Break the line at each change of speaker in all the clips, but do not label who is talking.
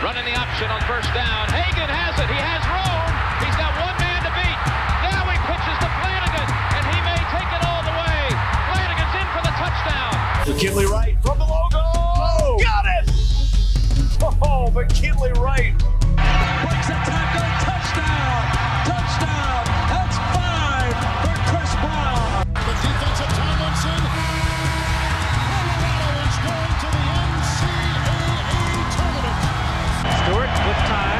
Running the option on first down. Hagan has it. He has room. He's got one man to beat. Now he pitches to Flanagan, and he may take it all the way. Flanagan's in for the touchdown.
McKinley Wright from the logo. Oh, got it! Oh, McKinley Wright.
Breaks a tackle. Touchdown. Touchdown. That's 5 for Chris Brown.
The defensive Tomlinson. Colorado is going to the NCAA tournament.
Stewart with time.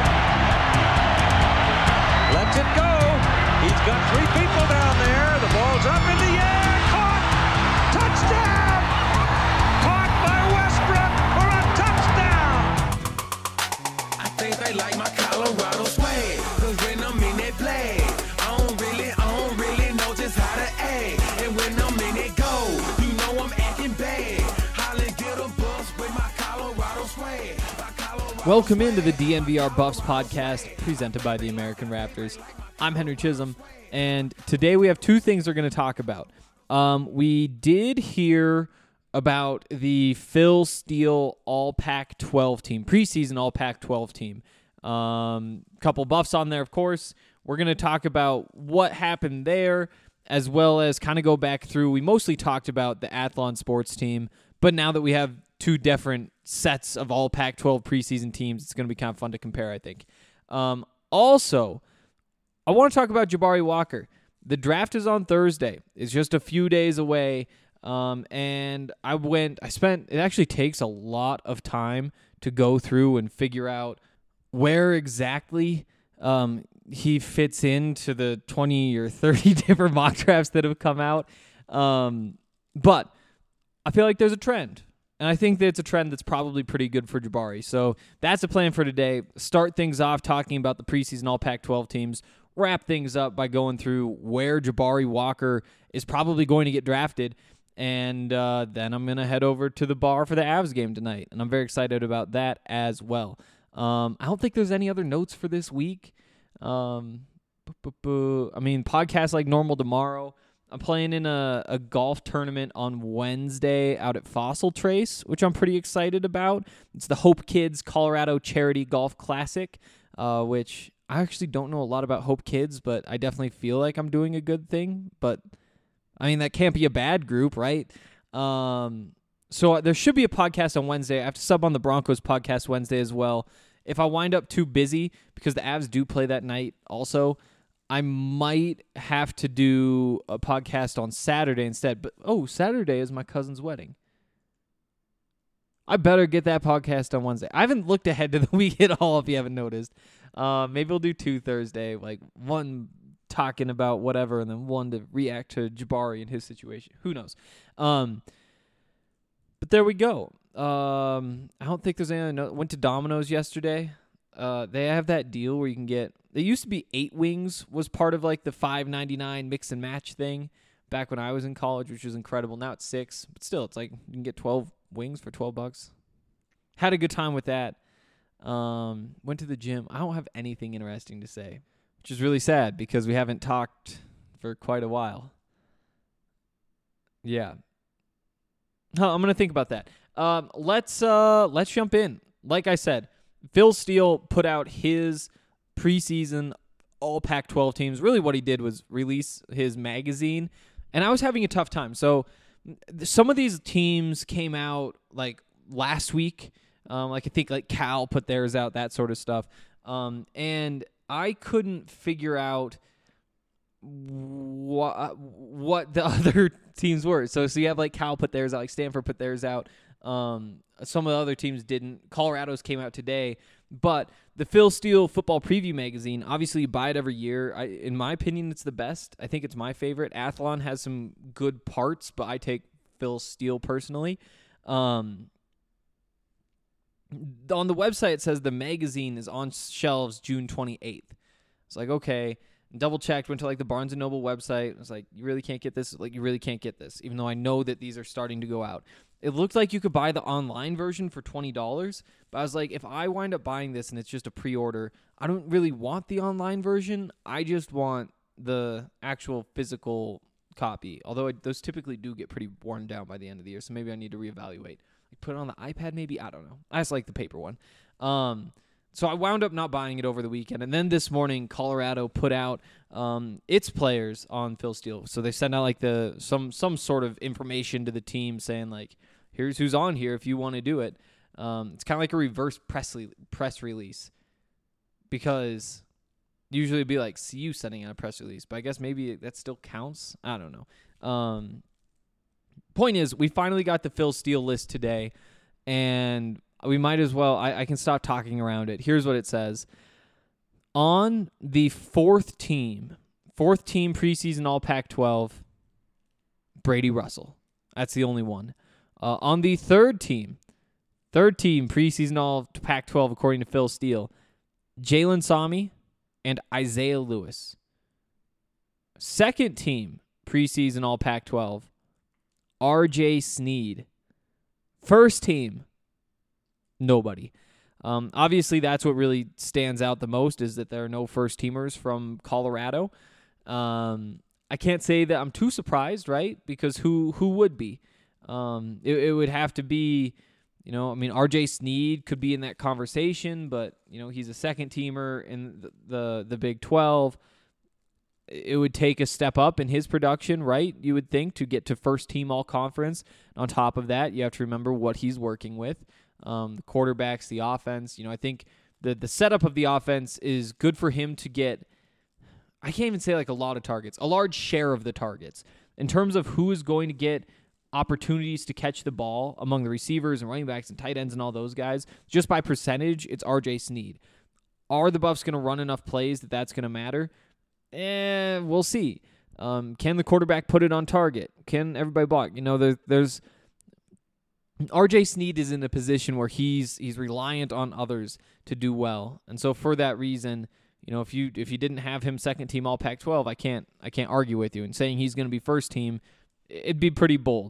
Lets it go. He's got 3 people down there. The ball's up in the air. Caught. Touchdown. Caught by Westbrook for a touchdown.
I think they like my Colorado swag. Cause when I'm in that play, I don't really know just how to act. And when I'm in it go, you know I'm acting bad. Holly get a bus with my Colorado swag.
Welcome into the DNVR Buffs podcast presented by the American Raptors. I'm Henry Chisholm, and today we have 2 things we're going to talk about. We did hear about the Phil Steele All Pac-12 team, preseason All Pac-12 team. Couple Buffs on there, of course. We're going to talk about what happened there, as well as kind of go back through. We mostly talked about the Athlon sports team, but now that we have 2 different sets of All Pac-12 preseason teams, it's going to be kind of fun to compare, I think. Also, I want to talk about Jabari Walker. The draft is on Thursday. It's just a few days away. And it actually takes a lot of time to go through and figure out where exactly he fits into the 20 or 30 different mock drafts that have come out. But I feel like there's a trend. And I think that it's a trend that's probably pretty good for Jabari. So that's the plan for today. Start things off talking about the preseason All Pac-12 teams. Wrap things up by going through where Jabari Walker is probably going to get drafted. And then I'm going to head over to the bar for the Avs game tonight. And I'm very excited about that as well. I don't think there's any other notes for this week. Podcast like normal tomorrow. I'm playing in a golf tournament on Wednesday out at Fossil Trace, which I'm pretty excited about. It's the Hope Kids Colorado Charity Golf Classic, which I actually don't know a lot about Hope Kids, but I definitely feel like I'm doing a good thing. But, that can't be a bad group, right? So there should be a podcast on Wednesday. I have to sub on the Broncos podcast Wednesday as well. If I wind up too busy, because the Avs do play that night also, I might have to do a podcast on Saturday instead. But, Saturday is my cousin's wedding. I better get that podcast on Wednesday. I haven't looked ahead to the week at all, if you haven't noticed. Maybe we'll do 2 Thursday, like one talking about whatever, and then one to react to Jabari and his situation. Who knows? But there we go. I don't think there's any other. Went to Domino's yesterday. They have that deal where you can get. It used to be 8 wings was part of like the $5.99 mix and match thing back when I was in college, which was incredible. Now it's 6, but still, it's like you can get 12 wings for $12. Had a good time with that. Went to the gym. I don't have anything interesting to say, which is really sad because we haven't talked for quite a while. Yeah. I'm gonna think about that. Let's jump in. Like I said, Phil Steele put out his preseason All Pac-12 teams. Really what he did was release his magazine, and I was having a tough time. So some of these teams came out like last week. I think like Cal put theirs out, that sort of stuff. And I couldn't figure out what the other teams were. So you have like Cal put theirs out, like Stanford put theirs out. Some of the other teams didn't. Colorado's came out today. But the Phil Steele Football Preview magazine, obviously you buy it every year. In my opinion, it's the best. I think it's my favorite. Athlon has some good parts, but I take Phil Steele personally. On the website, it says the magazine is on shelves June 28th. It's like, okay. Double checked, went to like the Barnes & Noble website. I was like, you really can't get this? Like, you really can't get this, even though I know that these are starting to go out. It looked like you could buy the online version for $20, but I was like, if I wind up buying this and it's just a pre-order, I don't really want the online version. I just want the actual physical copy, although those typically do get pretty worn down by the end of the year, so maybe I need to reevaluate. Like put it on the iPad maybe? I don't know. I just like the paper one. So I wound up not buying it over the weekend. And then this morning, Colorado put out its players on Phil Steele. So they sent out like some sort of information to the team saying like, here's who's on here if you want to do it. It's kind of like a reverse press release, because usually it'd be like CU sending out a press release, but I guess maybe that still counts. I don't know. Point is, we finally got the Phil Steele list today, and we might as well, I can stop talking around it. Here's what it says. On the fourth team preseason All Pac-12, Brady Russell. That's the only one. On the third team preseason All Pac-12, according to Phil Steele, Jalen Sami and Isaiah Lewis. Second team preseason All Pac-12, RJ Sneed. First team, nobody. Obviously, that's what really stands out the most, is that there are no first-teamers from Colorado. I can't say that I'm too surprised, right? Because who would be? It would have to be, RJ Sneed could be in that conversation, but, he's a second-teamer in the Big 12. It would take a step up in his production, right? You would think, to get to first-team all-conference. On top of that, you have to remember what he's working with. The quarterbacks, the offense. I think the setup of the offense is good for him to get, I can't even say like a lot of targets, a large share of the targets. In terms of who is going to get opportunities to catch the ball among the receivers and running backs and tight ends and all those guys, just by percentage, it's RJ Sneed. Are the Buffs going to run enough plays that that's going to matter? We'll see. Can the quarterback put it on target? Can everybody block? There's RJ Sneed is in a position where he's reliant on others to do well, and so for that reason, if you didn't have him second team All Pac-12, I can't argue with you. And saying he's going to be first team, it'd be pretty bold.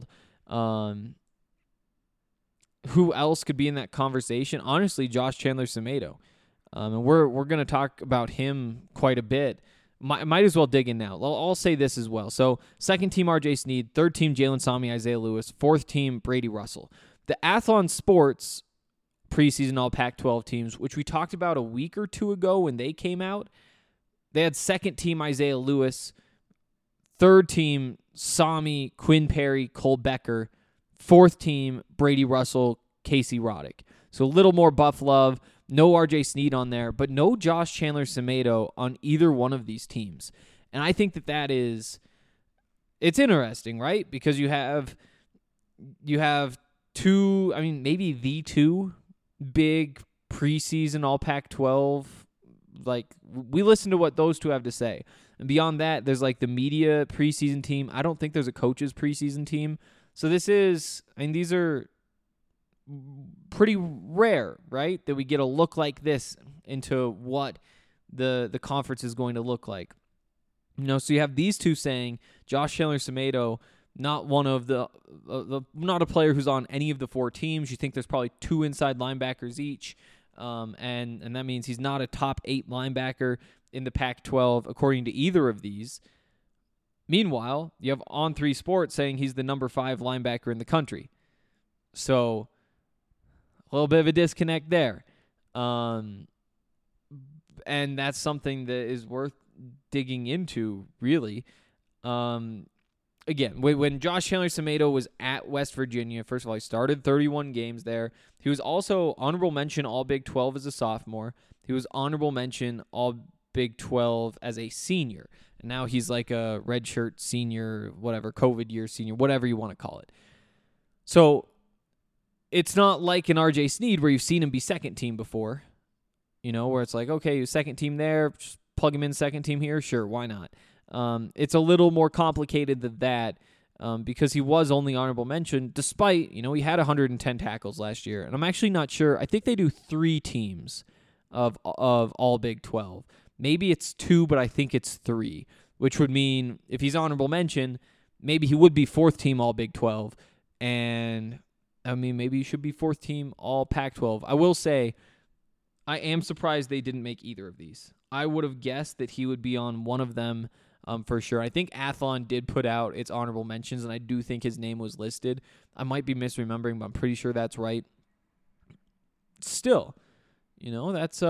Who else could be in that conversation? Honestly, Josh Chandler-Semedo, and we're going to talk about him quite a bit. Might as well dig in now. I'll say this as well. So, second team RJ Sneed, third team Jalen Sami, Isaiah Lewis, fourth team Brady Russell. The Athlon Sports preseason All Pac-12 teams, which we talked about a week or two ago when they came out, they had second team Isaiah Lewis, third team Sami, Quinn Perry, Cole Becker, fourth team Brady Russell, Casey Roddick. So a little more Buff love. No RJ Sneed on there, but no Josh Chandler-Semedo on either one of these teams. And I think it's interesting, right? Because you have two, maybe the two big preseason All Pac-12. Like, we listen to what those two have to say. And beyond that, there's like the media preseason team. I don't think there's a coaches preseason team. So these are pretty rare, right? That we get a look like this into what the conference is going to look like. So you have these two saying Josh Chandler-Semedo, not one of not a player who's on any of the four teams. You think there's probably two inside linebackers each, and that means he's not a top 8 linebacker in the Pac-12 according to either of these. Meanwhile, you have On3 Sports saying he's the number 5 linebacker in the country. So a little bit of a disconnect there. And that's something that is worth digging into, really. Again, when Josh Chandler-Semedo was at West Virginia, first of all, he started 31 games there. He was also honorable mention All Big 12 as a sophomore. He was honorable mention All Big 12 as a senior. And now he's like a redshirt senior, whatever, COVID year senior, whatever you want to call it. So it's not like an RJ Sneed where you've seen him be second team before, where it's like, okay, he's second team there, just plug him in second team here. Sure, why not? It's a little more complicated than that because he was only honorable mention despite, he had 110 tackles last year. And I'm actually not sure. I think they do 3 teams of all Big 12. Maybe it's 2, but I think it's 3, which would mean if he's honorable mention, maybe he would be 4th team All Big 12. And, maybe he should be 4th team All Pac-12. I will say, I am surprised they didn't make either of these. I would have guessed that he would be on one of them for sure. I think Athlon did put out its honorable mentions, and I do think his name was listed. I might be misremembering, but I'm pretty sure that's right. Still, That's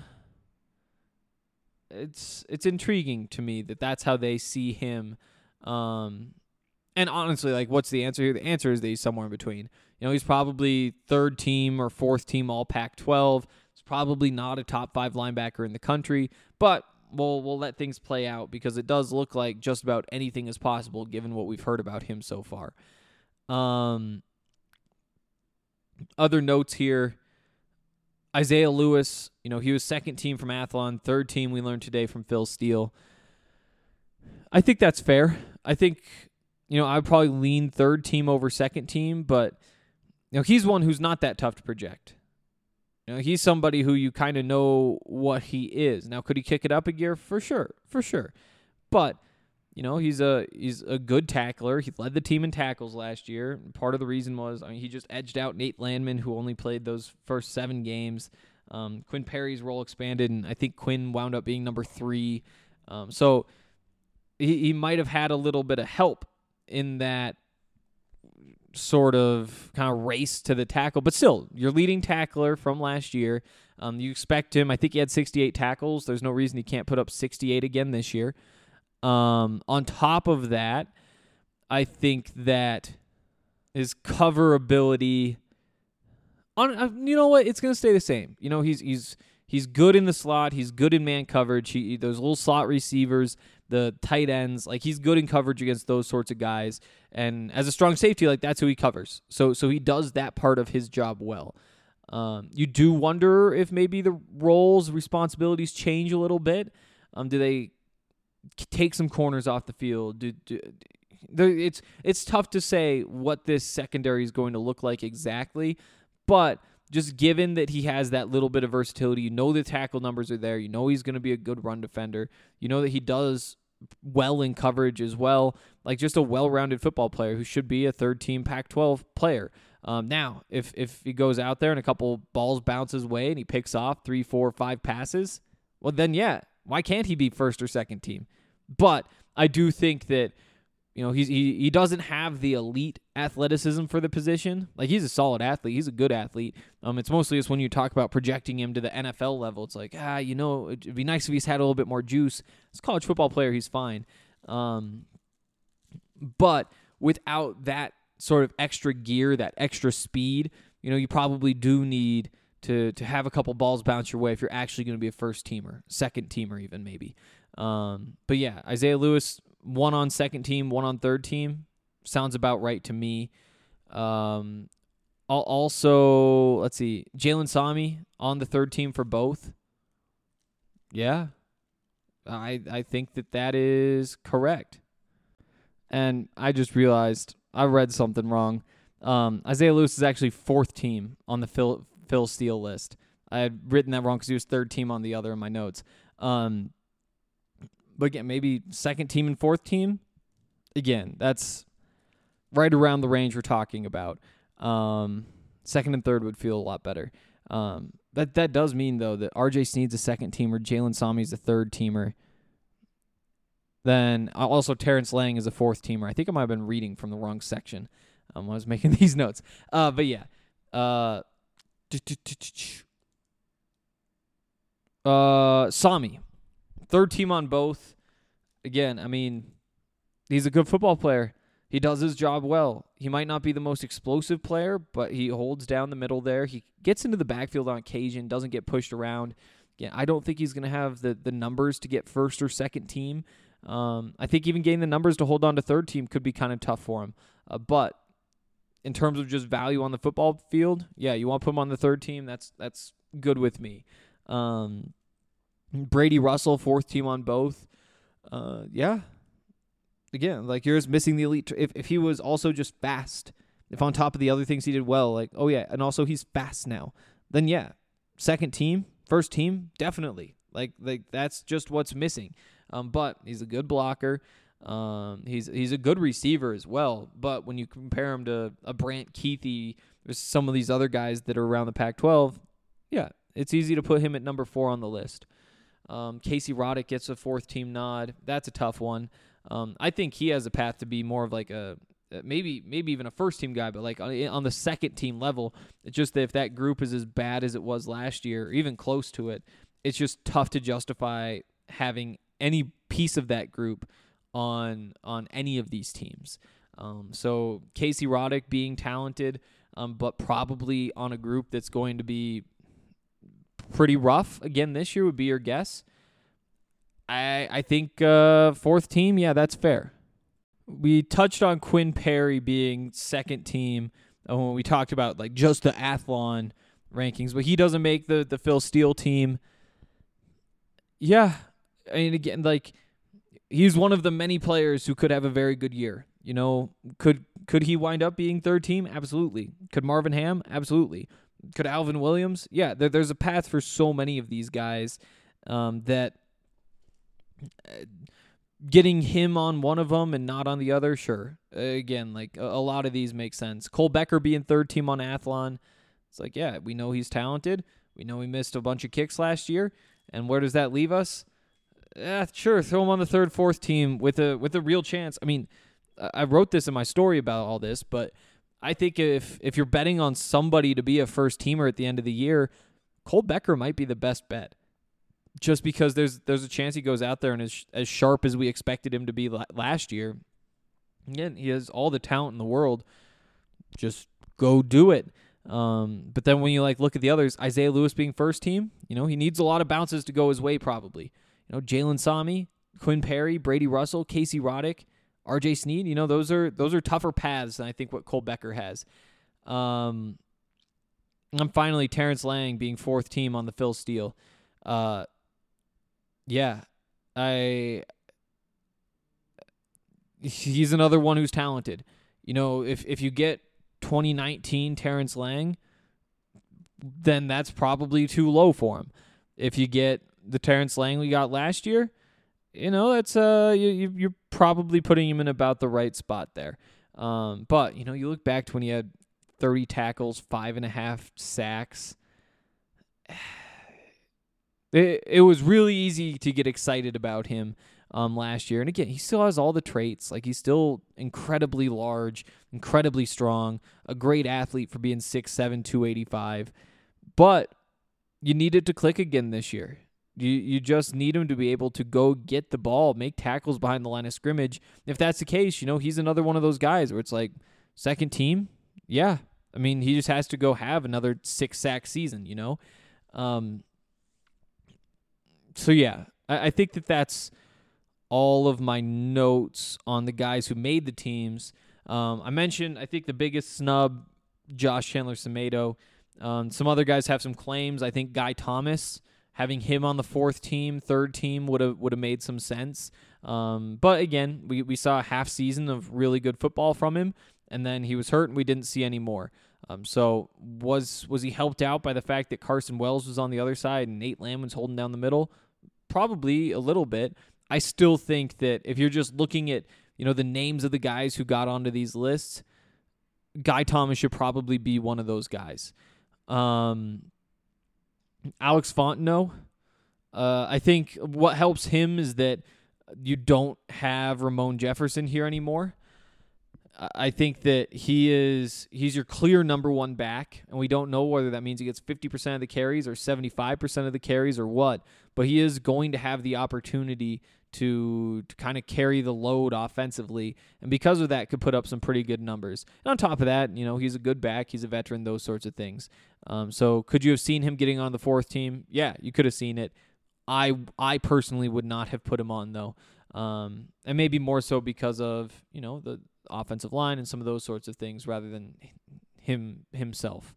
it's intriguing to me that that's how they see him. And honestly, like, what's the answer here? The answer is that he's somewhere in between. He's probably third team or fourth team all Pac-12. He's probably not a top 5 linebacker in the country, but we'll let things play out because it does look like just about anything is possible given what we've heard about him so far. Other notes here. Isaiah Lewis, he was second team from Athlon, third team we learned today from Phil Steele. I think that's fair. I think, I'd probably lean third team over second team, but, he's one who's not that tough to project. He's somebody who you kind of know what he is. Now, could he kick it up a gear? For sure. But, he's a good tackler. He led the team in tackles last year. Part of the reason was, he just edged out Nate Landman, who only played those first 7 games. Quinn Perry's role expanded, and I think Quinn wound up being number 3. So he might have had a little bit of help in that sort of kind of race to the tackle. But still, your leading tackler from last year. You expect him. I think he had 68 tackles. There's no reason he can't put up 68 again this year. On top of that, I think that his cover ability, you know what? It's going to stay the same. He's good in the slot. He's good in man coverage. Those little slot receivers, the tight ends, like, he's good in coverage against those sorts of guys. And as a strong safety, like, that's who he covers. So he does that part of his job well. You do wonder if maybe the roles, responsibilities change a little bit. Do they take some corners off the field? It's tough to say what this secondary is going to look like exactly, but just given that he has that little bit of versatility, the tackle numbers are there, he's going to be a good run defender, that he does well in coverage as well, like, just a well-rounded football player who should be a third-team Pac-12 player. Now, if he goes out there and a couple balls bounce his way and he picks off 3, 4, 5 passes, well, then, yeah, why can't he be first or second team? But I do think that, he doesn't have the elite athleticism for the position. Like, he's a solid athlete. He's a good athlete. It's mostly just when you talk about projecting him to the NFL level, it's like, it'd be nice if he's had a little bit more juice. As a college football player, he's fine. But without that sort of extra gear, that extra speed, you probably do need to have a couple balls bounce your way if you're actually going to be a first teamer, second teamer even maybe. But yeah, Isaiah Lewis, 1 on second team, 1 on third team, sounds about right to me. Also, let's see, Jalen Sami on the third team for both. Yeah, I think that is correct. And I just realized I read something wrong. Isaiah Lewis is actually 4th team on the Phil Steele list. I had written that wrong because he was 3rd team on the other in my notes. But again, maybe 2nd team and 4th team. Again, that's right around the range we're talking about. 2nd and 3rd would feel a lot better. That does mean, though, that RJ Sneed's a 2nd teamer, Jalen Sami's a 3rd teamer. Then also Terrence Lang is a 4th teamer. I think I might have been reading from the wrong section when I was making these notes. But yeah. Sami, 3rd team on both. Again, I mean, he's a good football player. He does his job well. He might not be the most explosive player, but he holds down the middle there. He gets into the backfield on occasion, doesn't get pushed around. Again, I don't think he's going to have the numbers to get 1st or 2nd team. I think even getting the numbers to hold on to 3rd team could be kind of tough for him. But in terms of just value on the football field, yeah, you want to put him on the 3rd team, that's good with me. Brady Russell, 4th team on both. Yeah. Again, like, you're just missing the elite. If he was also just fast, if on top of the other things he did well, like, oh yeah, and also he's fast now, then yeah, 2nd team, 1st team, definitely. Like that's just what's missing. But he's a good blocker. He's a good receiver as well. But when you compare him to a Brant Keithy or some of these other guys that are around the Pac-12, yeah, it's easy to put him at number 4 on the list. Casey Roddick gets a 4th team nod. That's a tough one. I think he has a path to be more of like a maybe even a first team guy, but like on the second team level. It's just that if that group is as bad as it was last year, or even close to it, it's just tough to justify having any piece of that group on any of these teams. So Casey Roddick being talented, but probably on a group that's going to be pretty rough again this year would be your guess. I think fourth team, yeah, that's fair. We touched on Quinn Perry being second team when we talked about like just the Athlon rankings, but he doesn't make the Phil Steele team. Yeah, I mean, again, like he's one of the many players who could have a very good year. You know, could he wind up being third team? Absolutely. Could Marvin Ham? Absolutely. Could Alvin Williams? Yeah, there's a path for so many of these guys that getting him on one of them and not on the other, sure. Again, like a lot of these make sense. Cole Becker being third team on Athlon, it's like, yeah, we know he's talented. We know he missed a bunch of kicks last year. And where does that leave us? Sure, throw him on the third, fourth team with a real chance. I mean, I wrote this in my story about all this, but I think if you're betting on somebody to be a first teamer at the end of the year, Cole Becker might be the best bet. Just because there's a chance he goes out there and is as sharp as we expected him to be last year. Again, he has all the talent in the world. Just go do it. But then when you look at the others, Isaiah Lewis being first team, he needs a lot of bounces to go his way probably. Jalen Sami, Quinn Perry, Brady Russell, Casey Roddick, R.J. Sneed, those are tougher paths than I think what Cole Becker has. And finally, Terrence Lang being fourth team on the Phil Steele. He's another one who's talented. If you get 2019 Terrence Lang, then that's probably too low for him. If you get the Terrence Lang we got last year, that's you're probably putting him in about the right spot there. But you look back to when he had 30 tackles, 5.5 sacks. It was really easy to get excited about him last year. And again, he still has all the traits. Like, he's still incredibly large, incredibly strong, a great athlete for being 6'7", 285. But you need it to click again this year. You just need him to be able to go get the ball, make tackles behind the line of scrimmage. If that's the case, he's another one of those guys where it's like, second team? Yeah. I mean, he just has to go have another 6-sack season, So, yeah, I think that's all of my notes on the guys who made the teams. I mentioned, I think the biggest snub, Josh Chandler-Semedo. Some other guys have some claims. I think Guy Thomas, having him on the fourth team, third team would have made some sense. But again, we saw a half season of really good football from him, and then he was hurt and we didn't see any more. So was he helped out by the fact that Carson Wells was on the other side and Nate Lamb was holding down the middle? Probably a little bit. I still think that if you're just looking at, the names of the guys who got onto these lists, Guy Thomas should probably be one of those guys. Alex Fontenot, I think what helps him is that you don't have Ramon Jefferson here anymore. I think that he's your clear number one back, and we don't know whether that means he gets 50% of the carries or 75% of the carries or what, but he is going to have the opportunity to kind of carry the load offensively, and because of that could put up some pretty good numbers. And on top of that, he's a good back, he's a veteran, those sorts of things. So could you have seen him getting on the fourth team? Yeah, you could have seen it. I personally would not have put him on, though. And maybe more so because of, the offensive line and some of those sorts of things rather than himself.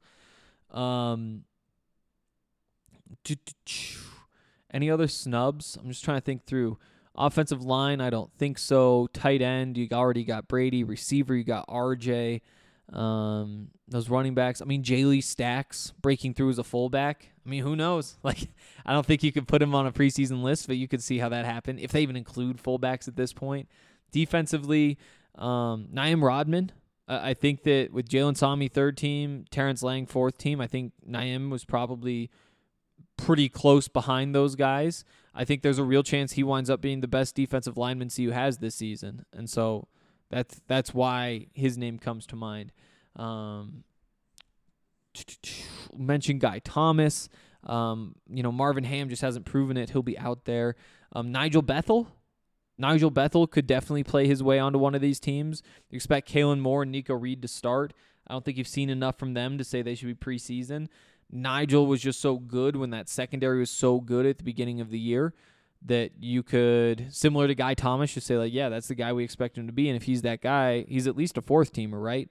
Any other snubs? I'm just trying to think through. Offensive line, I don't think so. Tight end, you already got Brady. Receiver, you got RJ. Those running backs. I mean, J-Lee Stacks breaking through as a fullback. I mean, who knows? I don't think you could put him on a preseason list, but you could see how that happened, if they even include fullbacks at this point. Defensively, Naim Rodman. I think that with Jalen Sami third team, Terrence Lang fourth team, I think Naim was probably pretty close behind those guys. I think there's a real chance he winds up being the best defensive lineman CU has this season. And so That's why his name comes to mind. Mentioned Guy Thomas. Marvin Ham just hasn't proven it. He'll be out there. Nigel Bethel. Nigel Bethel could definitely play his way onto one of these teams. You expect Kalen Moore and Nico Reed to start. I don't think you've seen enough from them to say they should be preseason. Nigel was just so good when that secondary was so good at the beginning of the year that you could, similar to Guy Thomas, just say, like, yeah, that's the guy we expect him to be. And if he's that guy, he's at least a fourth teamer, right?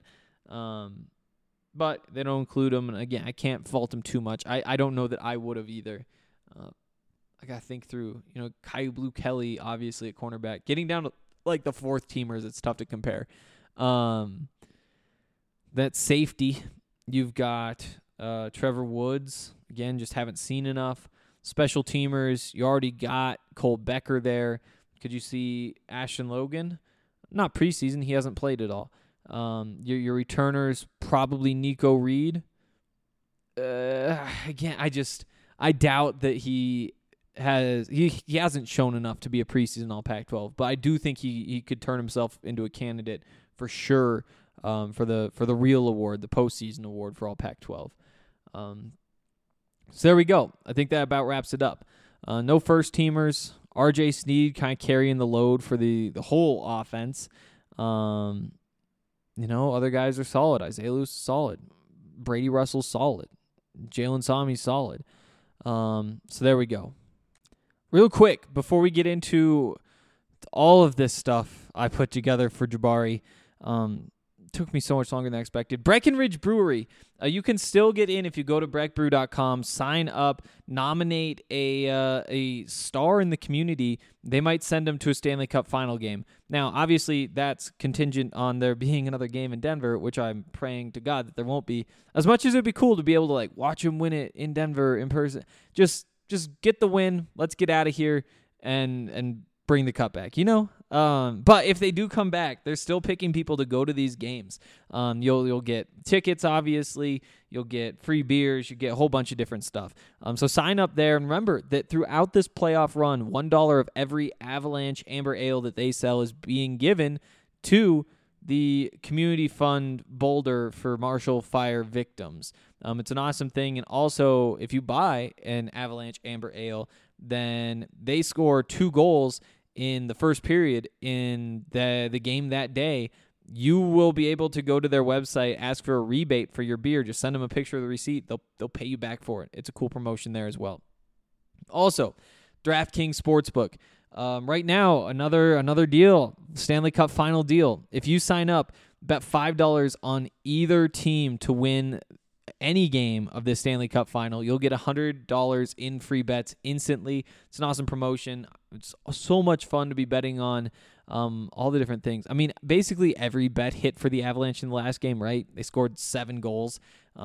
But they don't include him. And, again, I can't fault him too much. I don't know that I would have either. I got to think through, Kyu Blue Kelly, obviously, at cornerback. Getting down to, like, the fourth teamers, it's tough to compare. That safety, you've got Trevor Woods. Again, just haven't seen enough. Special teamers, you already got Cole Becker there. Could you see Ashton Logan? Not preseason. He hasn't played at all. Your returners, probably Nico Reed. Again, I doubt that he hasn't shown enough to be a preseason All Pac-12, but I do think he could turn himself into a candidate for sure for the real award, the postseason award for All Pac-12. So there we go. I think that about wraps it up. No first teamers. RJ Sneed kind of carrying the load for the whole offense. Other guys are solid. Isaiah Lewis is solid. Brady Russell's solid. Jalen Sami's solid. So there we go. Real quick, before we get into all of this stuff I put together for Jabari, took me so much longer than I expected. Breckenridge Brewery. You can still get in if you go to breckbrew.com, sign up, nominate a star in the community. They might send them to a Stanley Cup final game. Now, obviously, that's contingent on there being another game in Denver, which I'm praying to God that there won't be. As much as it'd be cool to be able to watch them win it in Denver in person, just get the win. Let's get out of here and bring the cup back, But if they do come back, they're still picking people to go to these games. You'll get tickets, obviously. You'll get free beers. You get a whole bunch of different stuff. So sign up there. And remember that throughout this playoff run, $1 of every Avalanche Amber Ale that they sell is being given to the Community Fund Boulder for Marshall Fire victims. It's an awesome thing. And also, if you buy an Avalanche Amber Ale, then they score 2 goals in the first period in the game that day. You will be able to go to their website, ask for a rebate for your beer. Just send them a picture of the receipt. They'll pay you back for it. It's a cool promotion there as well. Also, DraftKings Sportsbook. Right now, another deal, Stanley Cup final deal. If you sign up, bet $5 on either team to win any game of the Stanley Cup final, you'll get $100 in free bets instantly. It's an awesome promotion. It's so much fun to be betting on all the different things. I mean, basically every bet hit for the Avalanche in the last game, right? They scored 7 goals.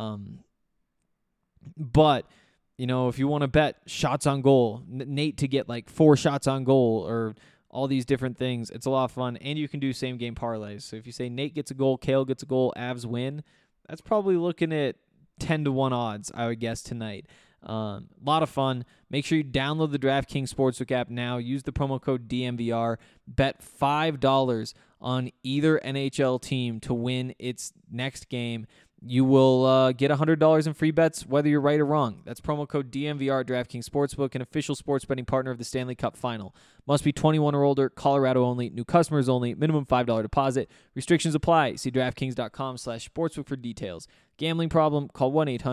But, if you want to bet shots on goal, Nate to get 4 shots on goal or all these different things, it's a lot of fun. And you can do same game parlays. So if you say Nate gets a goal, Kale gets a goal, Avs win, that's probably looking at 10-1 odds, I would guess, tonight. A lot of fun. Make sure you download the DraftKings Sportsbook app now. Use the promo code DMVR. Bet $5 on either NHL team to win its next game. You will get $100 in free bets, whether you're right or wrong. That's promo code DMVR at DraftKings Sportsbook, an official sports betting partner of the Stanley Cup Final. Must be 21 or older, Colorado only, new customers only, minimum $5 deposit. Restrictions apply. See DraftKings.com/sportsbook for details. Gambling problem? Call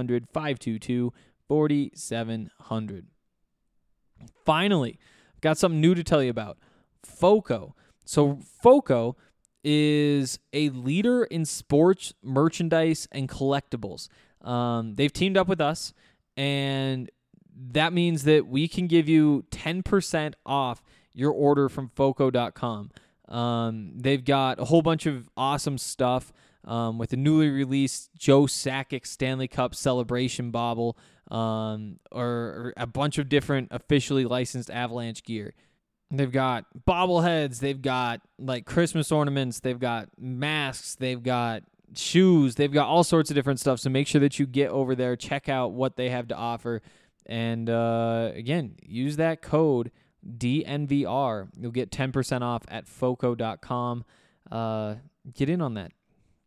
1-800-522-4700. Finally, I've got something new to tell you about. FOCO. So FOCO is a leader in sports merchandise and collectibles. They've teamed up with us, and that means that we can give you 10% off your order from FOCO.com. They've got a whole bunch of awesome stuff with the newly released Joe Sakic Stanley Cup celebration bauble, or a bunch of different officially licensed Avalanche gear. They've got bobbleheads, they've got Christmas ornaments, they've got masks, they've got shoes, they've got all sorts of different stuff. So make sure that you get over there, check out what they have to offer. And again, use that code DNVR. You'll get 10% off at FOCO.com. get in on that.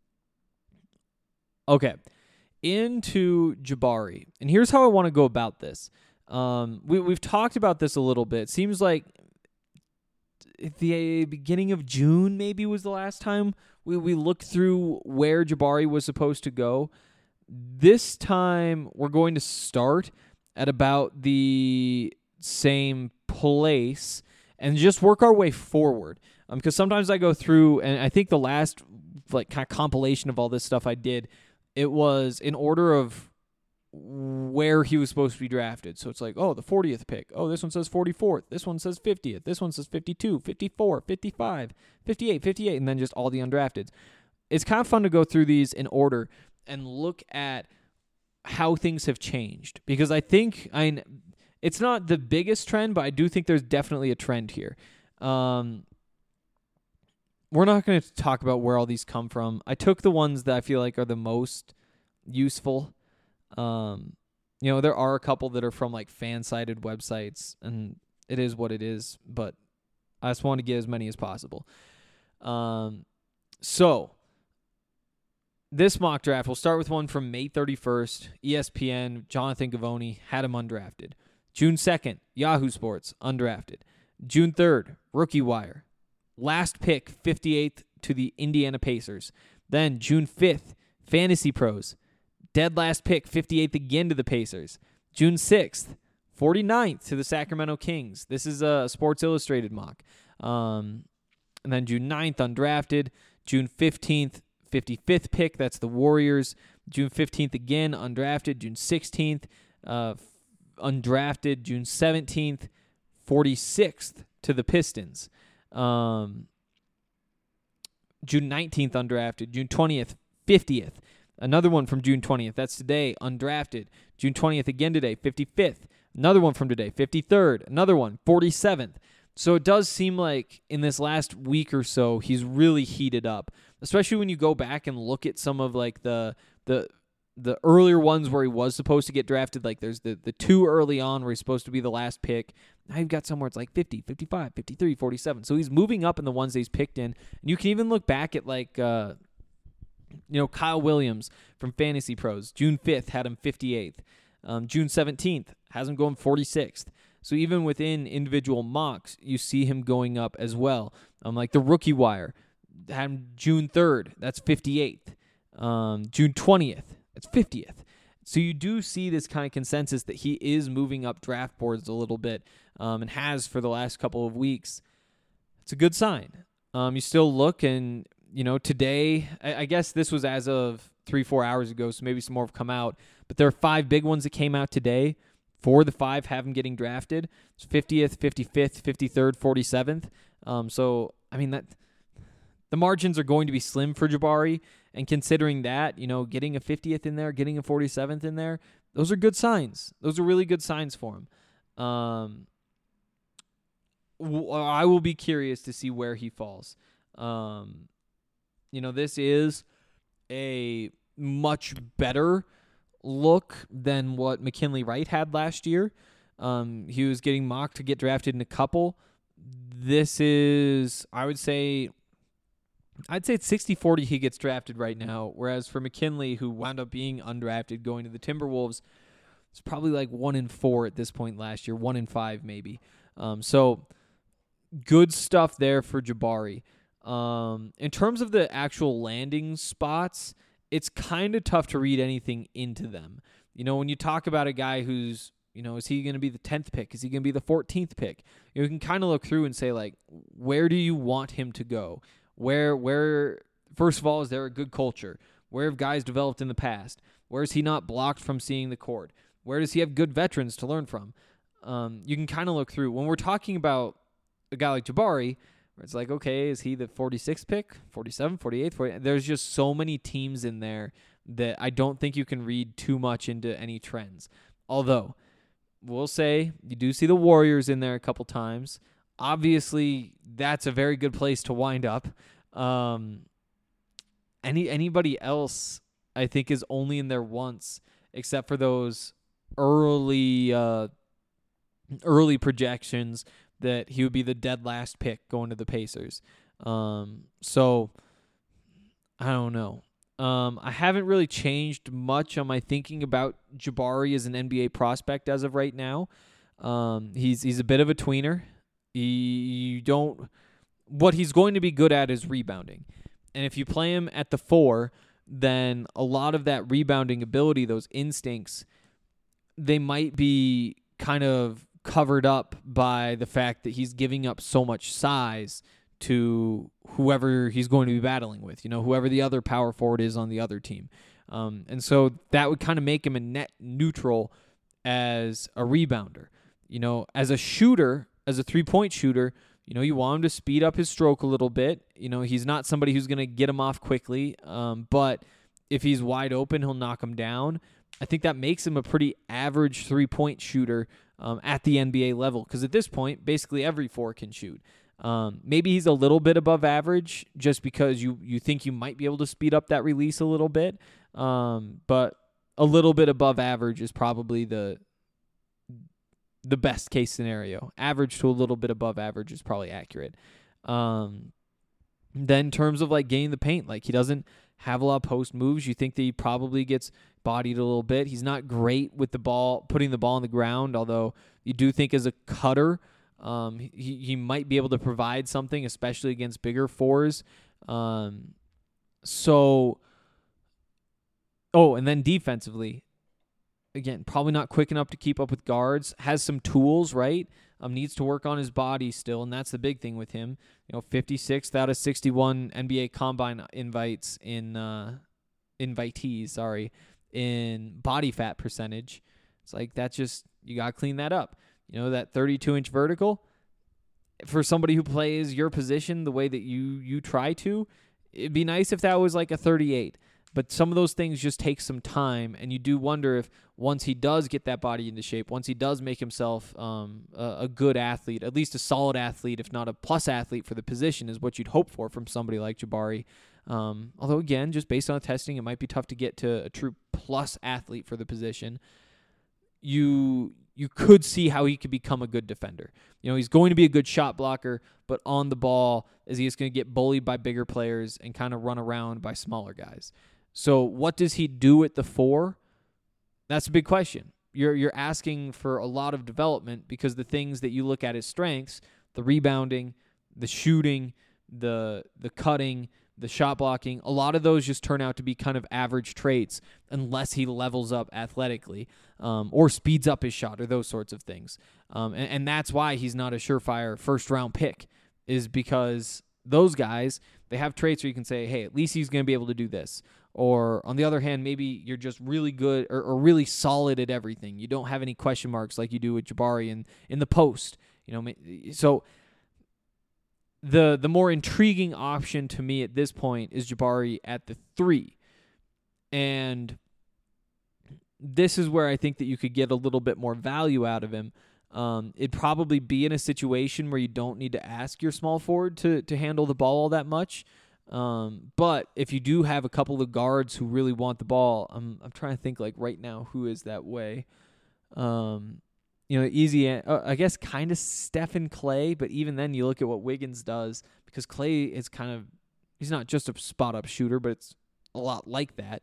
Okay, into Jabari. And here's how I want to go about this. We've talked about this a little bit. It seems like at the beginning of June maybe was the last time we looked through where Jabari was supposed to go. This time we're going to start at about the same place and just work our way forward. Because sometimes I go through, and I think the last like kind of compilation of all this stuff I did, it was in order of where he was supposed to be drafted. So it's like, oh, the 40th pick. Oh, this one says 44th. This one says 50th. This one says 52, 54, 55, 58, 58, and then just all the undrafteds. It's kind of fun to go through these in order and look at how things have changed. Because I think it's not the biggest trend, but I do think there's definitely a trend here. We're not going to talk about where all these come from. I took the ones that I feel like are the most useful. There are a couple that are from like fan-sided websites, and it is what it is, but I just want to get as many as possible. So this mock draft, we'll start with one from May 31st, ESPN, Jonathan Givony, had him undrafted. June 2nd, Yahoo Sports, undrafted. June 3rd, Rookie Wire. Last pick, 58th to the Indiana Pacers. Then June 5th, Fantasy Pros. Dead last pick, 58th again to the Pacers. June 6th, 49th to the Sacramento Kings. This is a Sports Illustrated mock. And then June 9th, undrafted. June 15th, 55th pick. That's the Warriors. June 15th again, undrafted. June 16th, undrafted. June 17th, 46th to the Pistons. June 19th, undrafted. June 20th, 50th. Another one from June 20th. That's today, undrafted. June 20th again today, 55th. Another one from today, 53rd. Another one, 47th. So it does seem like in this last week or so, he's really heated up, especially when you go back and look at some of like the earlier ones where he was supposed to get drafted. Like there's the two early on where he's supposed to be the last pick. Now you've got somewhere it's like 50, 55, 53, 47. So he's moving up in the ones that he's picked in. And you can even look back at like, Kyle Williams from Fantasy Pros. June 5th had him 58th. June 17th has him going 46th. So even within individual mocks, you see him going up as well. Like the Rookie Wire had him June 3rd. That's 58th. June 20th. That's 50th. So you do see this kind of consensus that he is moving up draft boards a little bit and has for the last couple of weeks. It's a good sign. You still look and, today, I guess this was as of 3-4 hours ago, so maybe some more have come out. But there are 5 big ones that came out today. 4 of the 5 have him getting drafted. It's 50th, 55th, 53rd, 47th. So, that the margins are going to be slim for Jabari. And considering that, getting a 50th in there, getting a 47th in there, those are good signs. Those are really good signs for him. I will be curious to see where he falls. This is a much better look than what McKinley Wright had last year. He was getting mocked to get drafted in a couple. This is, I'd say it's 60-40 he gets drafted right now, whereas for McKinley, who wound up being undrafted going to the Timberwolves, it's probably like 1-4 at this point last year, 1-5 maybe. So good stuff there for Jabari. In terms of the actual landing spots, it's kind of tough to read anything into them. When you talk about a guy who's, is he going to be the 10th pick? Is he going to be the 14th pick? You can kind of look through and say, like, where do you want him to go? Where, first of all, is there a good culture? Where have guys developed in the past? Where is he not blocked from seeing the court? Where does he have good veterans to learn from? You can kind of look through. When we're talking about a guy like Jabari, where it's like, okay, is he the 46th pick, 47, 48, 40? There's just so many teams in there that I don't think you can read too much into any trends. Although, we'll say you do see the Warriors in there a couple times. Obviously, that's a very good place to wind up. Anybody else, I think, is only in there once, except for those early projections that he would be the dead last pick going to the Pacers. So I don't know. I haven't really changed much on my thinking about Jabari as an NBA prospect as of right now. He's a bit of a tweener. What he's going to be good at is rebounding. And if you play him at the 4, then a lot of that rebounding ability, those instincts, they might be kind of covered up by the fact that he's giving up so much size to whoever he's going to be battling with, whoever the other power forward is on the other team. And so that would kind of make him a net neutral as a rebounder. As a shooter, as a three-point shooter, you want him to speed up his stroke a little bit. He's not somebody who's going to get him off quickly, but if he's wide open, he'll knock him down. I think that makes him a pretty average three-point shooter at the NBA level, because at this point, basically every 4 can shoot. Maybe he's a little bit above average just because you think you might be able to speed up that release a little bit, but a little bit above average is probably the best case scenario. Average to a little bit above average is probably accurate. Then in terms of like getting the paint, like he doesn't have a lot of post moves. You think that he probably gets bodied a little bit. He's not great with the ball, putting the ball on the ground, although you do think as a cutter, he might be able to provide something, especially against bigger 4s. And then defensively, again, probably not quick enough to keep up with guards. Has some tools, right? Needs to work on his body still, and that's the big thing with him. 56th out of 61 NBA Combine invitees, in body fat percentage. It's like you got to clean that up. That 32-inch vertical, for somebody who plays your position the way that you try to, it'd be nice if that was like a 38. But some of those things just take some time, and you do wonder if once he does get that body into shape, once he does make himself a good athlete, at least a solid athlete, if not a plus athlete for the position, is what you'd hope for from somebody like Jabari. Although, again, just based on the testing, it might be tough to get to a true plus athlete for the position. You could see how he could become a good defender. He's going to be a good shot blocker, but on the ball, is he just going to get bullied by bigger players and kind of run around by smaller guys? So what does he do at the 4? That's a big question. You're asking for a lot of development, because the things that you look at as strengths, the rebounding, the shooting, the cutting, the shot blocking, a lot of those just turn out to be kind of average traits unless he levels up athletically or speeds up his shot or those sorts of things. And that's why he's not a surefire first-round pick, is because those guys, they have traits where you can say, hey, at least he's going to be able to do this. Or on the other hand, maybe you're just really good or really solid at everything. You don't have any question marks like you do with Jabari in the post. So the more intriguing option to me at this point is Jabari at the 3. And this is where I think that you could get a little bit more value out of him. It'd probably be in a situation where you don't need to ask your small forward to handle the ball all that much. But if you do have a couple of guards who really want the ball, I'm trying to think like right now who is that way. Easy. I guess kind of Stephen Clay, but even then you look at what Wiggins does, because Clay is he's not just a spot up shooter, but it's a lot like that.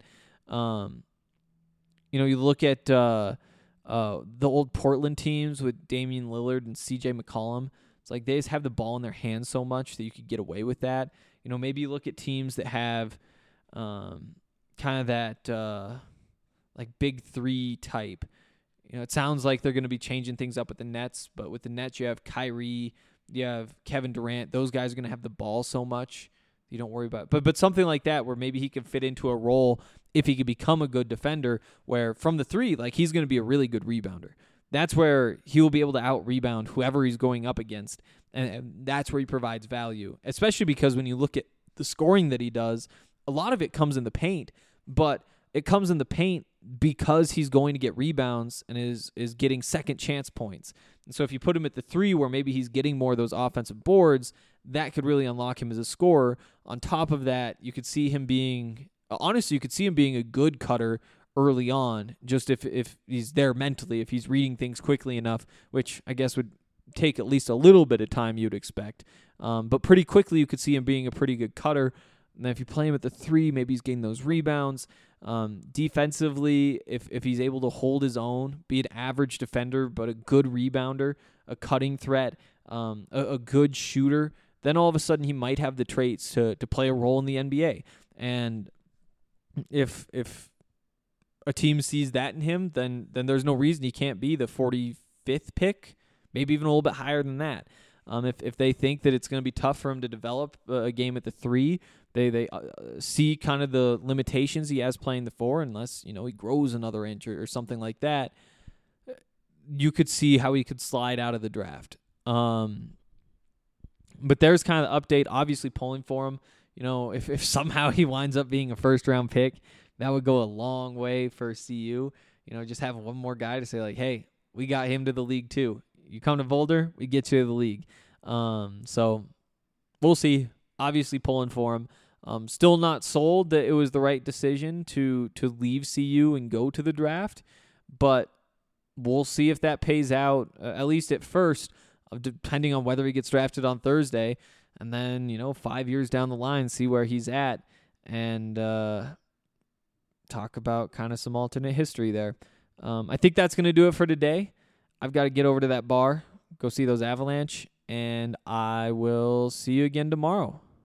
You look at the old Portland teams with Damian Lillard and CJ McCollum. It's like they just have the ball in their hands so much that you could get away with that. Maybe you look at teams that have kind of that like big 3 type. It sounds like they're going to be changing things up with the Nets, but with the Nets you have Kyrie, you have Kevin Durant. Those guys are going to have the ball so much you don't worry about it. But something like that where maybe he can fit into a role if he could become a good defender, where from the 3, like he's going to be a really good rebounder. That's where he will be able to out-rebound whoever he's going up against, and that's where he provides value, especially because when you look at the scoring that he does, a lot of it comes in the paint, but it comes in the paint because he's going to get rebounds and is getting second chance points. And so if you put him at the 3 where maybe he's getting more of those offensive boards, that could really unlock him as a scorer. On top of that, you could see him being a good cutter early on, just if he's there mentally, if he's reading things quickly enough, which I guess would take at least a little bit of time you'd expect. But pretty quickly you could see him being a pretty good cutter. And then if you play him at the 3, maybe he's getting those rebounds. Defensively, if he's able to hold his own, be an average defender but a good rebounder, a cutting threat, a good shooter, then all of a sudden he might have the traits to play a role in the NBA. And if a team sees that in him, then there's no reason he can't be the 45th pick, maybe even a little bit higher than that. If they think that it's going to be tough for him to develop a game at the 3, they see kind of the limitations he has playing the 4, unless he grows another inch or something like that. You could see how he could slide out of the draft. But there's kind of the update. Obviously, pulling for him. If somehow he winds up being a first-round pick, that would go a long way for CU. Just have one more guy to say, like, hey, we got him to the league too. You come to Boulder, we get you to the league. So we'll see. Obviously pulling for him. Still not sold that it was the right decision to leave CU and go to the draft, but we'll see if that pays out, at least at first, depending on whether he gets drafted on Thursday. And then, 5 years down the line, see where he's at and talk about kind of some alternate history there. I think that's going to do it for today. I've got to get over to that bar, go see those Avalanche, and I will see you again tomorrow.